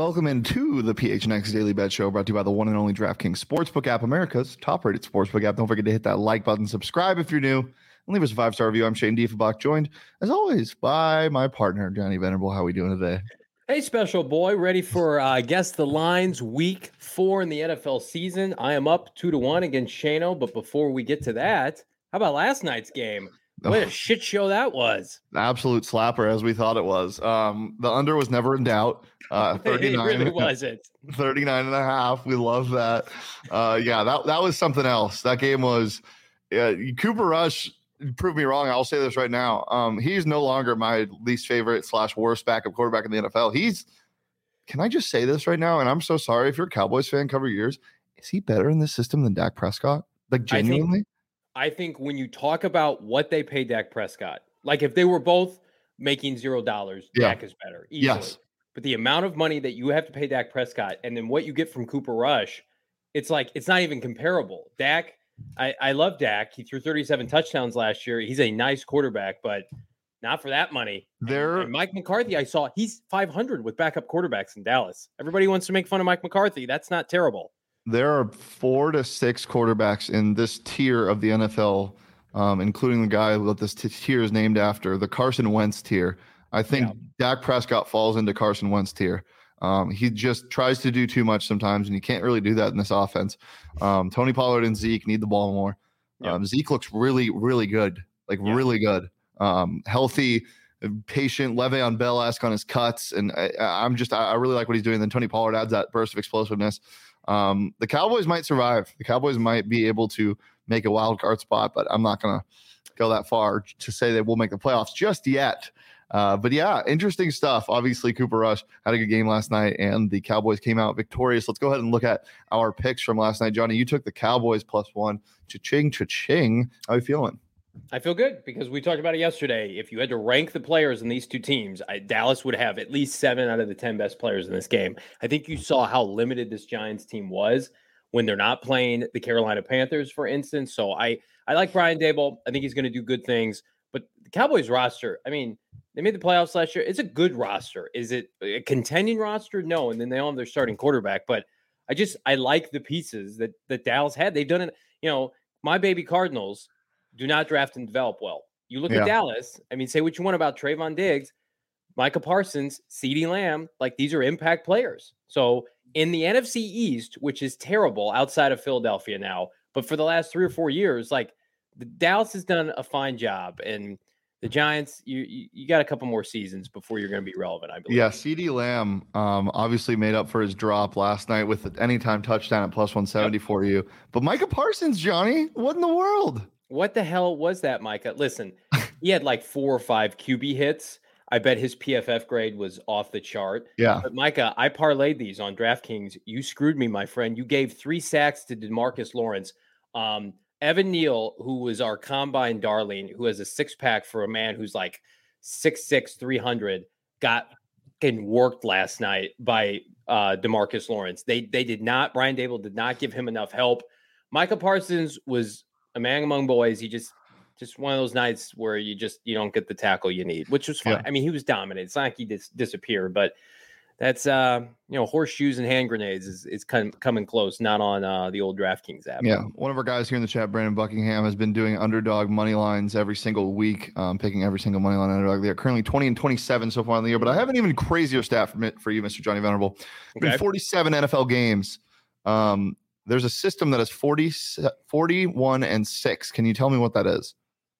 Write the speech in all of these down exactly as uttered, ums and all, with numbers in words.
welcome into the P H N X Daily Bet Show, brought to you by the one and only DraftKings Sportsbook app, America's top-rated sportsbook app. Don't forget to hit that like button, subscribe if you're new, and leave us a five-star review. I'm Shane Diefenbach, joined, as always, by my partner, Johnny Venerable. How are we doing today? Hey, special boy, ready for uh, Guess the Lines week four in the N F L season. I am up two to one against Shano, but before we get to that, how about last night's game? What a shit show that was. Absolute slapper, as we thought it was. Um, the under was never in doubt. Uh, thirty-nine, it really wasn't. thirty-nine and a half. We love that. Uh, yeah, that, that was something else. That game was uh, Cooper Rush proved me wrong. I'll say this right now. Um, he's no longer my least favorite slash worst backup quarterback in the N F L. He's, can I just say this right now? And I'm so sorry if you're a Cowboys fan, cover your ears. Is he better in this system than Dak Prescott? Like genuinely? I think, I think when you talk about what they pay Dak Prescott, like if they were both making zero dollars, yeah. Dak is better. Easily. Yes. But the amount of money that you have to pay Dak Prescott and then what you get from Cooper Rush, it's like, it's not even comparable. Dak, I, I love Dak. He threw thirty-seven touchdowns last year. He's a nice quarterback, but not for that money. There, and, and Mike McCarthy, I saw he's five hundred with backup quarterbacks in Dallas. Everybody wants to make fun of Mike McCarthy. That's not terrible. There are four to six quarterbacks in this tier of the N F L, um, including the guy that this t- tier is named after, the Carson Wentz tier. I think yeah. Dak Prescott falls into Carson Wentz tier. Um, he just tries to do too much sometimes, and you can't really do that in this offense. Um, Tony Pollard and Zeke need the ball more. Um, yeah. Zeke looks really, really good, like yeah. really good. Um, healthy, patient, Le'Veon Bell-esque on his cuts, and I, I'm just I really like what he's doing. Then Tony Pollard adds that burst of explosiveness. Um, the Cowboys might survive. The Cowboys might be able to make a wild card spot, but I'm not going to go that far to say they will make the playoffs just yet. Uh, but yeah, interesting stuff. Obviously, Cooper Rush had a good game last night, and the Cowboys came out victorious. Let's go ahead and look at our picks from last night. Johnny, you took the Cowboys plus one. Cha-ching, cha-ching. How are you feeling? I feel good because we talked about it yesterday. If you had to rank the players in these two teams, I, Dallas would have at least seven out of the ten best players in this game. I think you saw how limited this Giants team was when they're not playing the Carolina Panthers, for instance. So I, I like Brian Daboll. I think he's going to do good things. But the Cowboys roster, I mean, they made the playoffs last year. It's a good roster. Is it a contending roster? No. And then they all have their starting quarterback. But I just, I like the pieces that, that Dallas had. They've done it. You know, my baby Cardinals do not draft and develop well. You look yeah. at Dallas. I mean, say what you want about Trayvon Diggs, Micah Parsons, CeeDee Lamb. Like, these are impact players. So in the N F C East, which is terrible outside of Philadelphia now, but for the last three or four years, like, the Dallas has done a fine job. And the Giants, you, you you got a couple more seasons before you're going to be relevant, I believe. Yeah, CeeDee Lamb um, obviously made up for his drop last night with the anytime touchdown at plus one seventy yep. for you. But Micah Parsons, Johnny, what in the world? What the hell was that, Micah? Listen, he had like four or five Q B hits. I bet his P F F grade was off the chart. Yeah. But Micah, I parlayed these on DraftKings. You screwed me, my friend. You gave three sacks to DeMarcus Lawrence. Um, Evan Neal, who was our combine darling, who has a six-pack for a man who's like six six, three hundred, got getting worked last night by uh, DeMarcus Lawrence. They they did not, Brian Daboll did not give him enough help. Micah Parsons was a man among boys. He just, just one of those nights where you just, you don't get the tackle you need, which was fine. Yeah. I mean, he was dominant. It's not like he dis- disappeared, but that's, uh, you know, horseshoes and hand grenades is, is kind of coming close, not on uh, the old DraftKings app. Yeah. One of our guys here in the chat, Brandon Buckingham, has been doing underdog money lines every single week, um, picking every single money line underdog. They are currently twenty and twenty-seven so far in the year, but I have an even crazier stat for, for you, Mister Johnny Venerable. Okay. Been forty-seven N F L games. Um, There's a system that is forty, forty-one and six. Can you tell me what that is?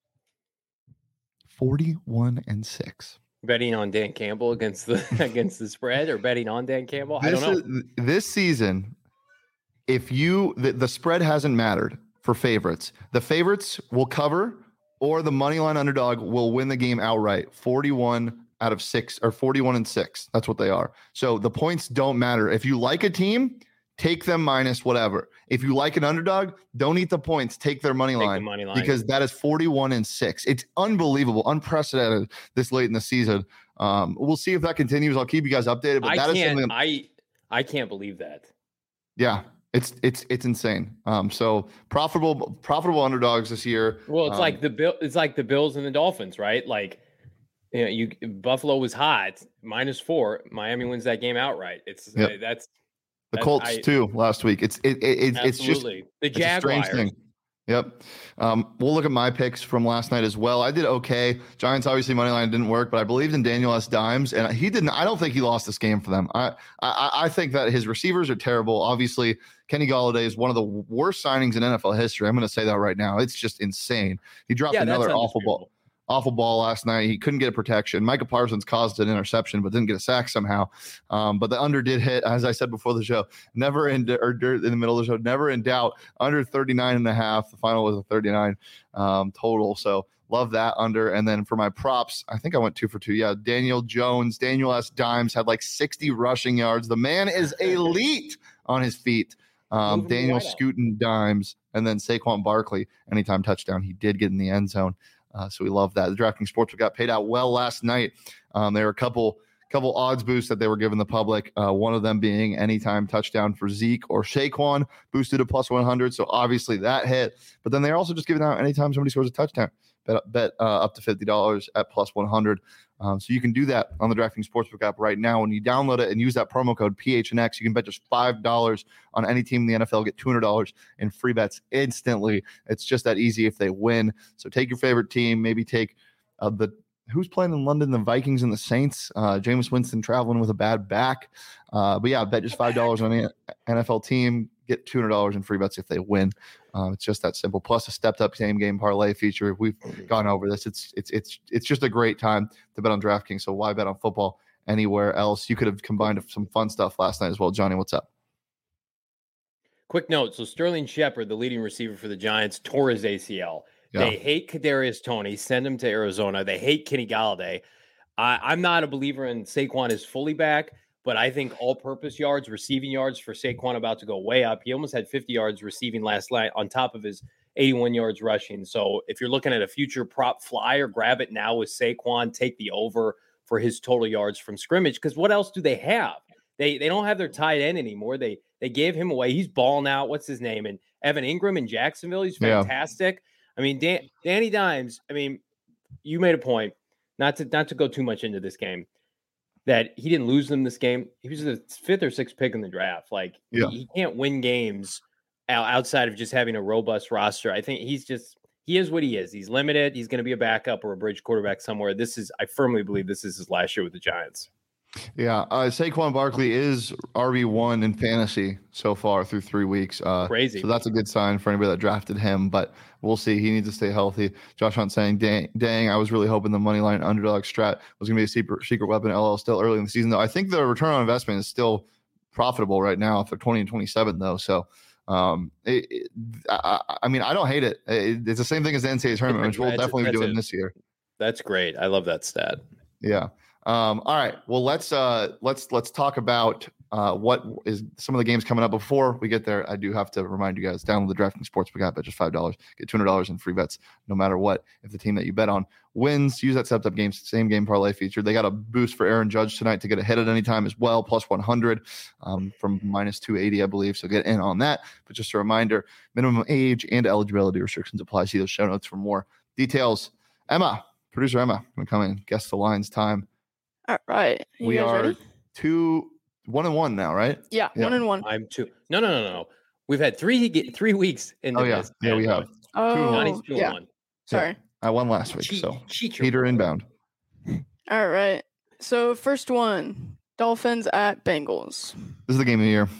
forty-one and six. Betting on Dan Campbell against the against the spread, or betting on Dan Campbell? This I don't know. Is, this season, if you the, the spread hasn't mattered for favorites, the favorites will cover, or the money line underdog will win the game outright. forty-one out of six, or forty-one and six. That's what they are. So the points don't matter. If you like a team, take them minus whatever. If you like an underdog, don't eat the points. Take their money, take line, the money line because that is forty-one and six. It's unbelievable, unprecedented this late in the season. Um, we'll see if that continues. I'll keep you guys updated. But I that can't. is something. I I can't believe that. Yeah, it's it's it's insane. Um, so profitable profitable underdogs this year. Well, it's um, like the bill. It's like the Bills and the Dolphins, right? Like you know, you Buffalo was hot, minus four. Miami wins that game outright. It's yep. uh, that's the that's, Colts I, too last week. It's it, it, it it's just the Jaguars. It's a strange thing. Yep. Um, we'll look at my picks from last night as well. I did okay. Giants obviously money line didn't work, but I believed in Daniel S. Dimes, and he didn't. I don't think he lost this game for them. I I, I think that his receivers are terrible. Obviously, Kenny Golladay is one of the worst signings in N F L history. I'm going to say that right now. It's just insane. He dropped yeah, another awful ball. Awful ball last night. He couldn't get a protection. Micah Parsons caused an interception, but didn't get a sack somehow. Um, but the under did hit, as I said before the show, never in, or in the middle of the show, never in doubt. Under thirty-nine and a half. The final was a thirty-nine um, total. So love that under. And then for my props, I think I went two for two. Yeah. Daniel Jones, Daniel S. Dimes had like sixty rushing yards. The man is elite on his feet. Um, Daniel right Scooten Dimes, and then Saquon Barkley, anytime touchdown. He did get in the end zone. Uh, so we love that. The DraftKings Sportsbook got paid out well last night. Um, there were a couple couple odds boosts that they were giving the public. Uh, one of them being anytime touchdown for Zeke or Saquon, boosted to plus one hundred. So obviously that hit. But then they're also just giving out anytime somebody scores a touchdown. Bet, bet uh, up to fifty dollars at plus one hundred. Um, so you can do that on the DraftKings Sportsbook app right now. When you download it and use that promo code P H N X, you can bet just five dollars on any team in the N F L, get two hundred dollars in free bets instantly. It's just that easy if they win. So take your favorite team, maybe take uh, the who's playing in London, the Vikings and the Saints. Uh, Jameis Winston traveling with a bad back. Uh, but yeah, bet just five dollars on any N F L team, get two hundred dollars in free bets if they win. Um, it's just that simple. Plus a stepped up same game parlay feature. We've gone over this. It's it's it's it's just a great time to bet on DraftKings. So why bet on football anywhere else? You could have combined some fun stuff last night as well. Johnny, what's up? Quick note. So Sterling Shepard, the leading receiver for the Giants, tore his A C L. Yeah. They hate Kadarius Toney. Send him to Arizona. They hate Kenny Golladay. I, I'm not a believer in Saquon is fully back. But I think all-purpose yards, receiving yards for Saquon about to go way up. He almost had fifty yards receiving last night on top of his eighty-one yards rushing. So if you're looking at a future prop flyer, grab it now with Saquon. Take the over for his total yards from scrimmage. Because what else do they have? They they don't have their tight end anymore. They they gave him away. He's balling out. What's his name? And Evan Ingram in Jacksonville. He's fantastic. Yeah. I mean, Dan, Danny Dimes. I mean, you made a point. Not to not to go too much into this game. That he didn't lose them this game. He was the fifth or sixth pick in the draft. Like yeah. he, he can't win games outside of just having a robust roster. I think he's just, he is what he is. He's limited. He's going to be a backup or a bridge quarterback somewhere. This is, I firmly believe this is his last year with the Giants. Yeah. Uh, Saquon Barkley is R B one in fantasy so far through three weeks. Uh, Crazy. So that's a good sign for anybody that drafted him, but we'll see. He needs to stay healthy. Josh Hunt saying, dang, dang, I was really hoping the money line underdog strat was going to be a secret, secret weapon. L L still early in the season, though. I think the return on investment is still profitable right now for twenty and twenty-seven, though. So, um, it, it, I, I mean, I don't hate it. it. It's the same thing as the N C double A tournament, which we'll that's definitely a, be doing a, this year. That's great. I love that stat. Yeah. Um, all right. Well, let's uh, let's let's talk about uh, what is some of the games coming up. Before we get there, I do have to remind you guys: download the DraftKings Sportsbook app at just five dollars, get two hundred dollars in free bets, no matter what. If the team that you bet on wins, use that stepped up game same game parlay feature. They got a boost for Aaron Judge tonight to get a hit at any time as well, plus one hundred um, from minus two eighty, I believe. So get in on that. But just a reminder: minimum age and eligibility restrictions apply. See those show notes for more details. Emma, producer Emma, gonna come in, guess the lines time. All right. You we are ready? two, one and one now, right? Yeah, yeah, one and one. I'm two. No, no, no, no. We've had three three weeks in the Oh, yeah. this. Yeah, we have. Oh, two yeah. One. Sorry. Yeah. I won last week, cheat, so cheat Peter inbound. All right. So first one, Dolphins at Bengals. This is the game of the year.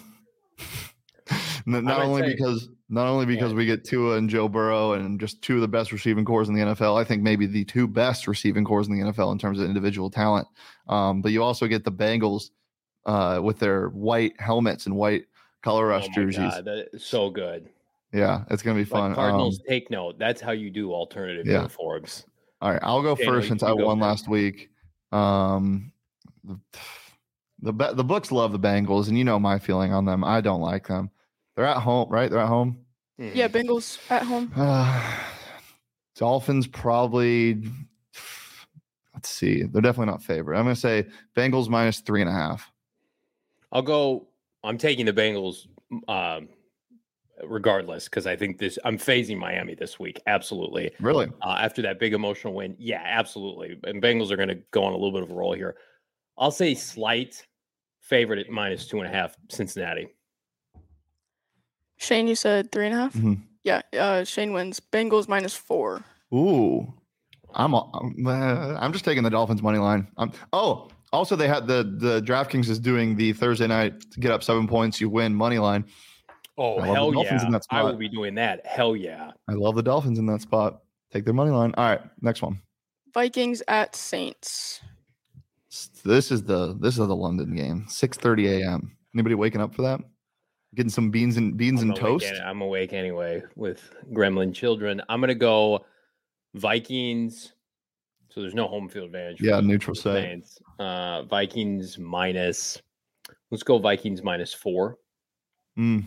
Not only say, because not only because yeah. we get Tua and Joe Burrow and just two of the best receiving cores in the N F L. I think maybe the two best receiving cores in the N F L in terms of individual talent. Um, but you also get the Bengals uh, with their white helmets and white color rush oh my jerseys. God, that is so good. Yeah, it's gonna be fun. Like Cardinals, um, take note. That's how you do alternative yeah. uniforms. All right, I'll go Daniel, first since I won first. last week. Um, the the the books love the Bengals, and you know my feeling on them. I don't like them. They're at home, right? They're at home. Yeah, Bengals at home. Uh, Dolphins probably. Let's see. They're definitely not favored. I'm going to say Bengals minus three and a half. I'll go. I'm taking the Bengals um, regardless, because I think this. I'm phasing Miami this week. Absolutely. Really? Uh, after that big emotional win, yeah, absolutely. And Bengals are going to go on a little bit of a roll here. I'll say slight favorite at minus two and a half. Cincinnati. Shane, you said three and a half. Mm-hmm. Yeah. Uh, Shane wins. Bengals minus four. Ooh, I'm I'm, uh, I'm just taking the Dolphins money line. Um, oh, also they had the the DraftKings is doing the Thursday night to get up seven points, you win money line. Oh, hell yeah! I will be doing that. Hell yeah! I love the Dolphins in that spot. Take their money line. All right, next one. Vikings at Saints. This is the this is the London game. six thirty a.m. Anybody waking up for that? Getting some beans and beans I'm and toast. Any, I'm awake anyway with gremlin children. I'm gonna go Vikings. So there's no home field advantage. Yeah, neutral site. Uh, Vikings minus. Let's go Vikings minus four. Mm.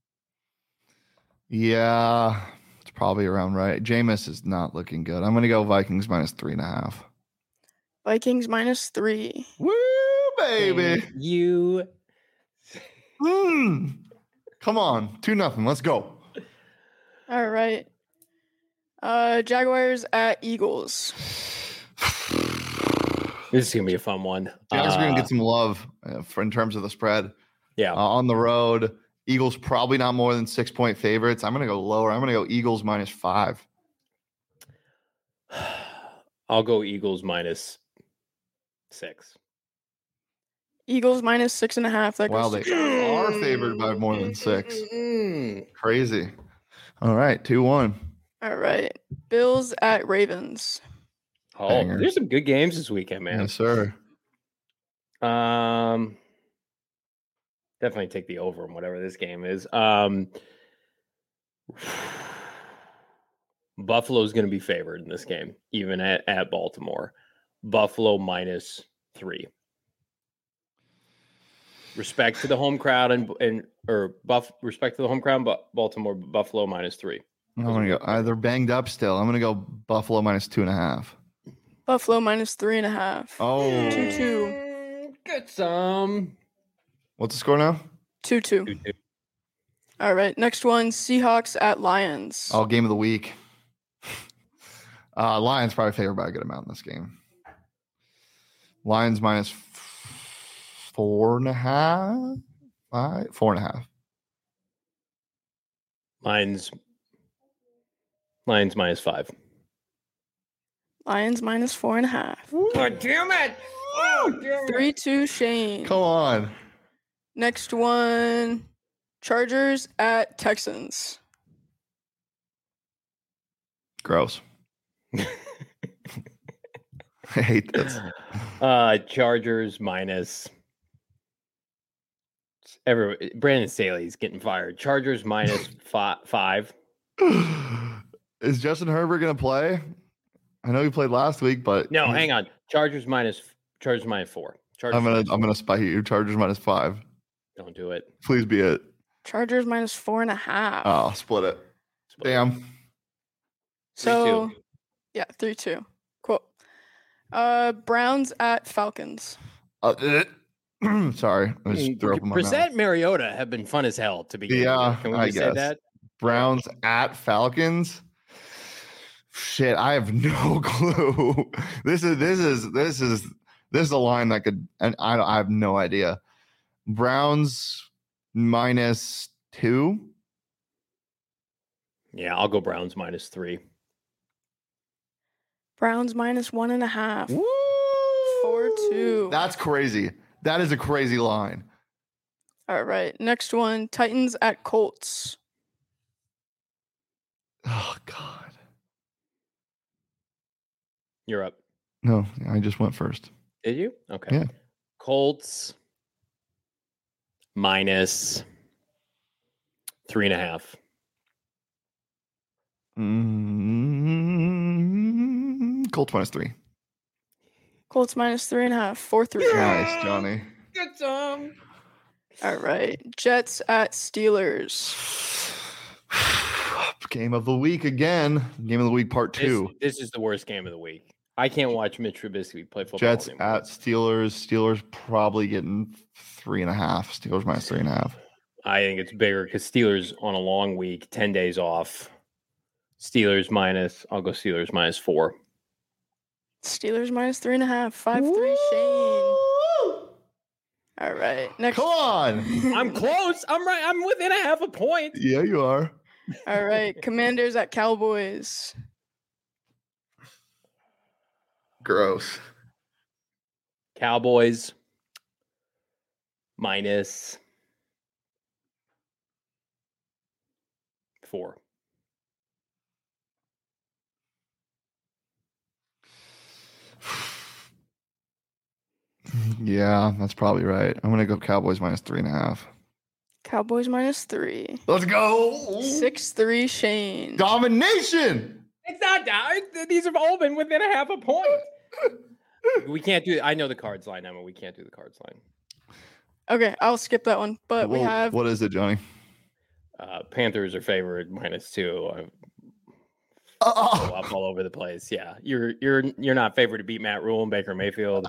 Yeah, it's probably around right. Jameis is not looking good. I'm gonna go Vikings minus three and a half. Vikings minus three. Woo, baby! And you. Mm. Come on, two nothing. Let's go. All right. Uh, Jaguars at Eagles. This is gonna be a fun one. Jaguars uh, are gonna get some love uh, for in terms of the spread. Yeah, uh, on the road. Eagles probably not more than six point favorites. I'm gonna go lower. I'm gonna go Eagles minus five. I'll go Eagles minus six. Eagles minus six and a half. That wow, goes they are favored by more than six. Crazy. All right, two one. All right. Bills at Ravens. Oh, Banger. There's some good games this weekend, man. Yes, sir. Um, definitely take the over in whatever this game is. Um, Buffalo's going to be favored in this game, even at, at Baltimore. Buffalo minus three. Respect to the home crowd and and or buff respect to the home crowd, but Baltimore Buffalo minus three. I'm gonna go. Uh, they're banged up still. I'm gonna go Buffalo minus two and a half. Buffalo minus three and a half. Oh, two two. Get some. What's the score now? Two two. two two. All right. Next one: Seahawks at Lions. Oh, game of the week. uh, Lions probably favored by a good amount in this game. Lions minus four and a half, five, four and a half. Lions. Lions minus five. Lions minus four and a half. Oh, damn it! Oh, damn it. Three two. Shane. Come on. Next one: Chargers at Texans. Gross. I hate this. Uh, Chargers minus. Every Brandon Staley's getting fired. Chargers minus fi- five. Is Justin Herbert going to play? I know he played last week, but No, hang on. Chargers minus Chargers minus four. Chargers I'm gonna minus I'm gonna spike you. Chargers minus five. Don't do it. Please be it. Chargers minus four and a half. Oh, split it. Split Damn. so, three two. yeah, three two. Cool. Uh, Browns at Falcons. Uh, sorry, I just threw up in my Brissett mouth. and Mariota have been fun as hell to begin Yeah, with. Can we I just say guess. that? Browns at Falcons. Shit, I have no clue. This is this is this is this is a line that could, and I I have no idea. Browns minus two. Yeah, I'll go Browns minus three. Browns minus one and a half. Woo! Four two. That's crazy. That is a crazy line. All right. Next one: Titans at Colts. Oh God. You're up. No, I just went first. Did you? Okay. Yeah. Colts minus three and a half. Mm-hmm. Colts minus three. Colts minus three and a half. Four three. Nice, Johnny. Get some. All right. Jets at Steelers. Game of the week again. Game of the week part two. This, this is the worst game of the week. I can't watch Mitch Trubisky play football. Jets anymore. at Steelers. Steelers probably getting three and a half. Steelers minus three and a half. I think it's bigger because Steelers on a long week, ten days off. Steelers minus, I'll go Steelers minus four. Steelers minus three and a half. Five Woo! three Shane. All right. Next. Come on. I'm close. I'm right. I'm within a half a point. Yeah, you are. All right. Commanders at Cowboys. Gross. Cowboys minus four. Yeah, that's probably right. I'm gonna go Cowboys minus three and a half. Cowboys minus three. Let's go. Six three Shane. Domination. It's not down. These have all been within a half a point. We can't do. I know the cards line, Emma. We can't do the cards line. Okay, I'll skip that one. But well, we have. What is it, Johnny? Uh, Panthers are favored minus two. Oh. Up all over the place. Yeah, you're you're you're not favored to beat Matt Rule and Baker Mayfield.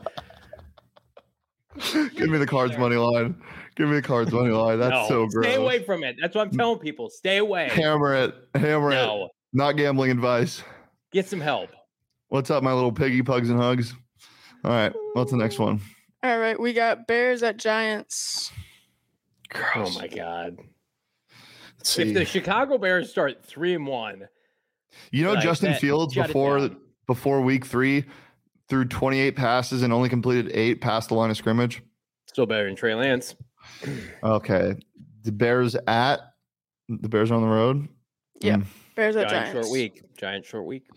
Give me the Cards money line. Give me the Cards money line. That's no, so gross. Stay away from it. That's what I'm telling people. Stay away. Hammer it. Hammer no. it. Not gambling advice. Get some help. What's up, my little piggy pugs and hugs? All right. What's the next one? All right. We got Bears at Giants. Gross. Oh, my God. If the Chicago Bears start three and one. You know, like Justin that, Fields before before week three threw twenty-eight passes and only completed eight past the line of scrimmage. Still better than Trey Lance. Okay. The Bears at the Bears are on the road. Yeah. Mm. Bears at Giants. Giant short week. Giant short week.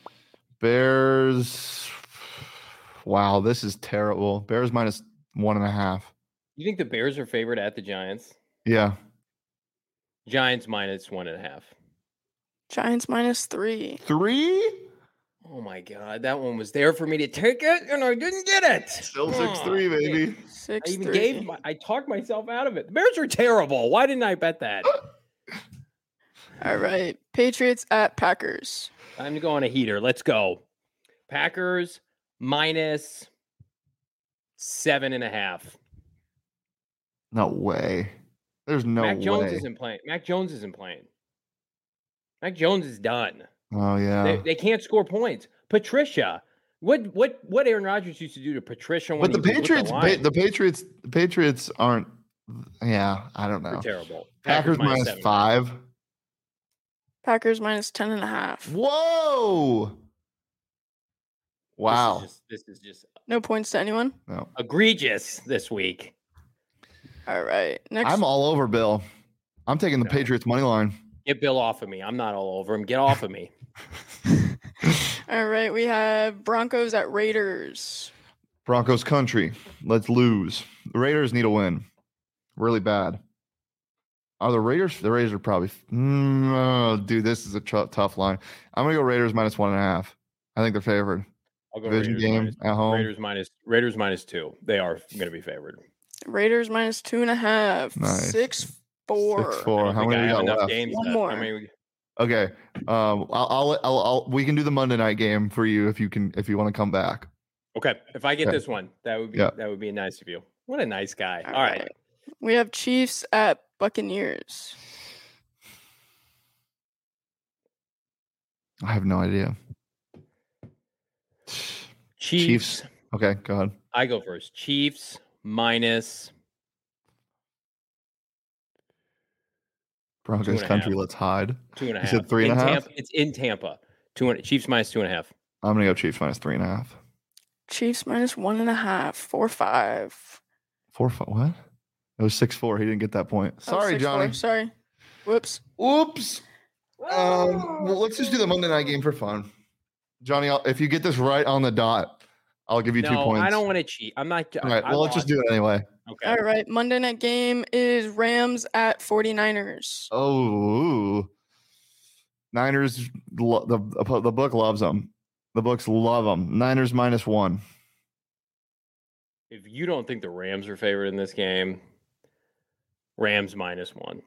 Bears. Wow, this is terrible. Bears minus one and a half. You think the Bears are favored at the Giants? Yeah. Giants minus one and a half. Giants minus three. Three? Oh my God, that one was there for me to take it, and I didn't get it. Still six oh, three, baby. Six I even three. gave. My, I talked myself out of it. The Bears are terrible. Why didn't I bet that? All right, Patriots at Packers. Time to go on a heater. Let's go. Packers minus seven and a half. No way. There's no Mac way. Jones isn't playing. Mac Jones isn't playing. Mac Jones is done. Oh yeah. They, they can't score points. Patricia. What what what Aaron Rodgers used to do to Patricia when But the he Patriots the, the Patriots the Patriots aren't yeah, I don't know. They're terrible. Packers, Packers minus, minus five. Packers minus ten and a half. Whoa. Wow. This is just, this is just no points to anyone? No. Egregious this week. All right. Next. I'm all over Bill. I'm taking the no. Patriots money line. Get Bill off of me. I'm not all over him. Get off of me. All right. We have Broncos at Raiders. Broncos country. Let's lose. The Raiders need a win. Really bad. Are the Raiders? The Raiders are probably. Mm, oh, dude, this is a tr- tough line. I'm going to go Raiders minus one and a half. I think they're favored. I'll go Division Raiders game minus, at home. Raiders minus, Raiders minus two. They are going to be favored. Raiders minus two and a half. Nice. Six four. Six four. How many we got left? Games One left. more. How many we... Okay. Um. I'll, I'll. I'll. I'll. We can do the Monday night game for you if you can. If you want to come back. Okay. If I get okay. this one, that would be. Yeah. That would be nice of you. What a nice guy. All, All right. right. We have Chiefs at Buccaneers. I have no idea. Chiefs. Chiefs. Okay, go ahead. I go first. Chiefs minus Broncos country. Let's hide. Two and a you half. Said three and in a half. Tampa, it's in Tampa. Two and Chiefs minus two and a half. I'm gonna go Chiefs minus three and a half. Chiefs minus one and a half. Four five. Four five. What? It was six four. He didn't get that point. Sorry, oh, Johnny. Four. Sorry. Whoops. Oops. Um. Well, let's just do the Monday night game for fun. Johnny, I'll, if you get this right on the dot, I'll give you no, two points. I don't want to cheat. I'm not. All right. I well, let's just do it anyway. Okay. All right. Monday night game is Rams at 49ers. Oh, Niners. Lo- the the book loves them. The books love them. Niners minus one. If you don't think the Rams are favored in this game, Rams minus one.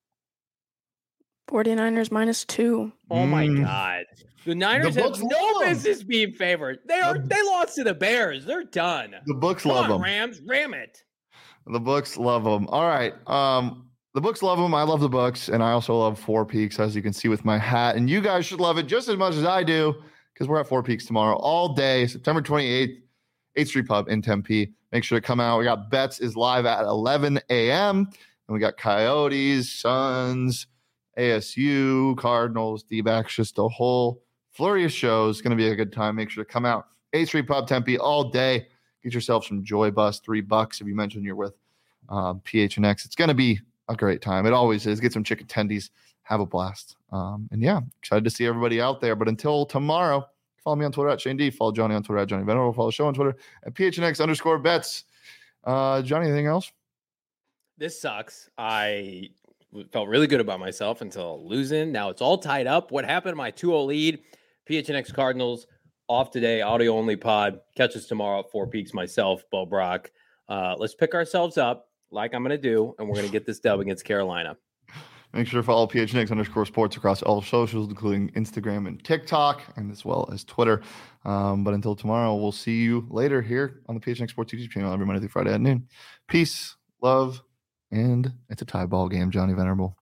49ers minus two. Oh my Mm. God. The Niners The have books no love 'em. business being favored. They are The- they lost to the Bears. They're done. The books Come love on, them. Rams, ram it. The books love them. All right. Um, the books love them. I love the books. And I also love Four Peaks, as you can see with my hat. And you guys should love it just as much as I do, because we're at Four Peaks tomorrow all day, September twenty-eighth, eighth Street Pub in Tempe. Make sure to come out. We got Bets is live at eleven a.m. And we got Coyotes, Suns, A S U, Cardinals, D-backs, just a whole flurry of shows. It's going to be a good time. Make sure to come out. eighth Street Pub, Tempe, all day. Get yourself some Joy Bus, three bucks if you mention you're with um, P H N X. It's going to be a great time. It always is. Get some chicken tendies. Have a blast. Um, and yeah, excited to see everybody out there. But until tomorrow, follow me on Twitter at Shane D. Follow Johnny on Twitter at Johnny Venerable. Follow the show on Twitter at P H N X underscore bets. Uh, Johnny, anything else? This sucks. I felt really good about myself until losing. Now it's all tied up. What happened to my two oh lead? P H N X Cardinals off today, audio only pod. Catch us tomorrow at Four Peaks, myself, Bo Brock. Uh, let's pick ourselves up like I'm going to do, and we're going to get this dub against Carolina. Make sure to follow P H N X underscore sports across all socials, including Instagram and TikTok, and as well as Twitter. Um, but until tomorrow, we'll see you later here on the P H N X Sports YouTube channel every Monday through Friday at noon. Peace, love, and it's a tie ball game, Johnny Venerable.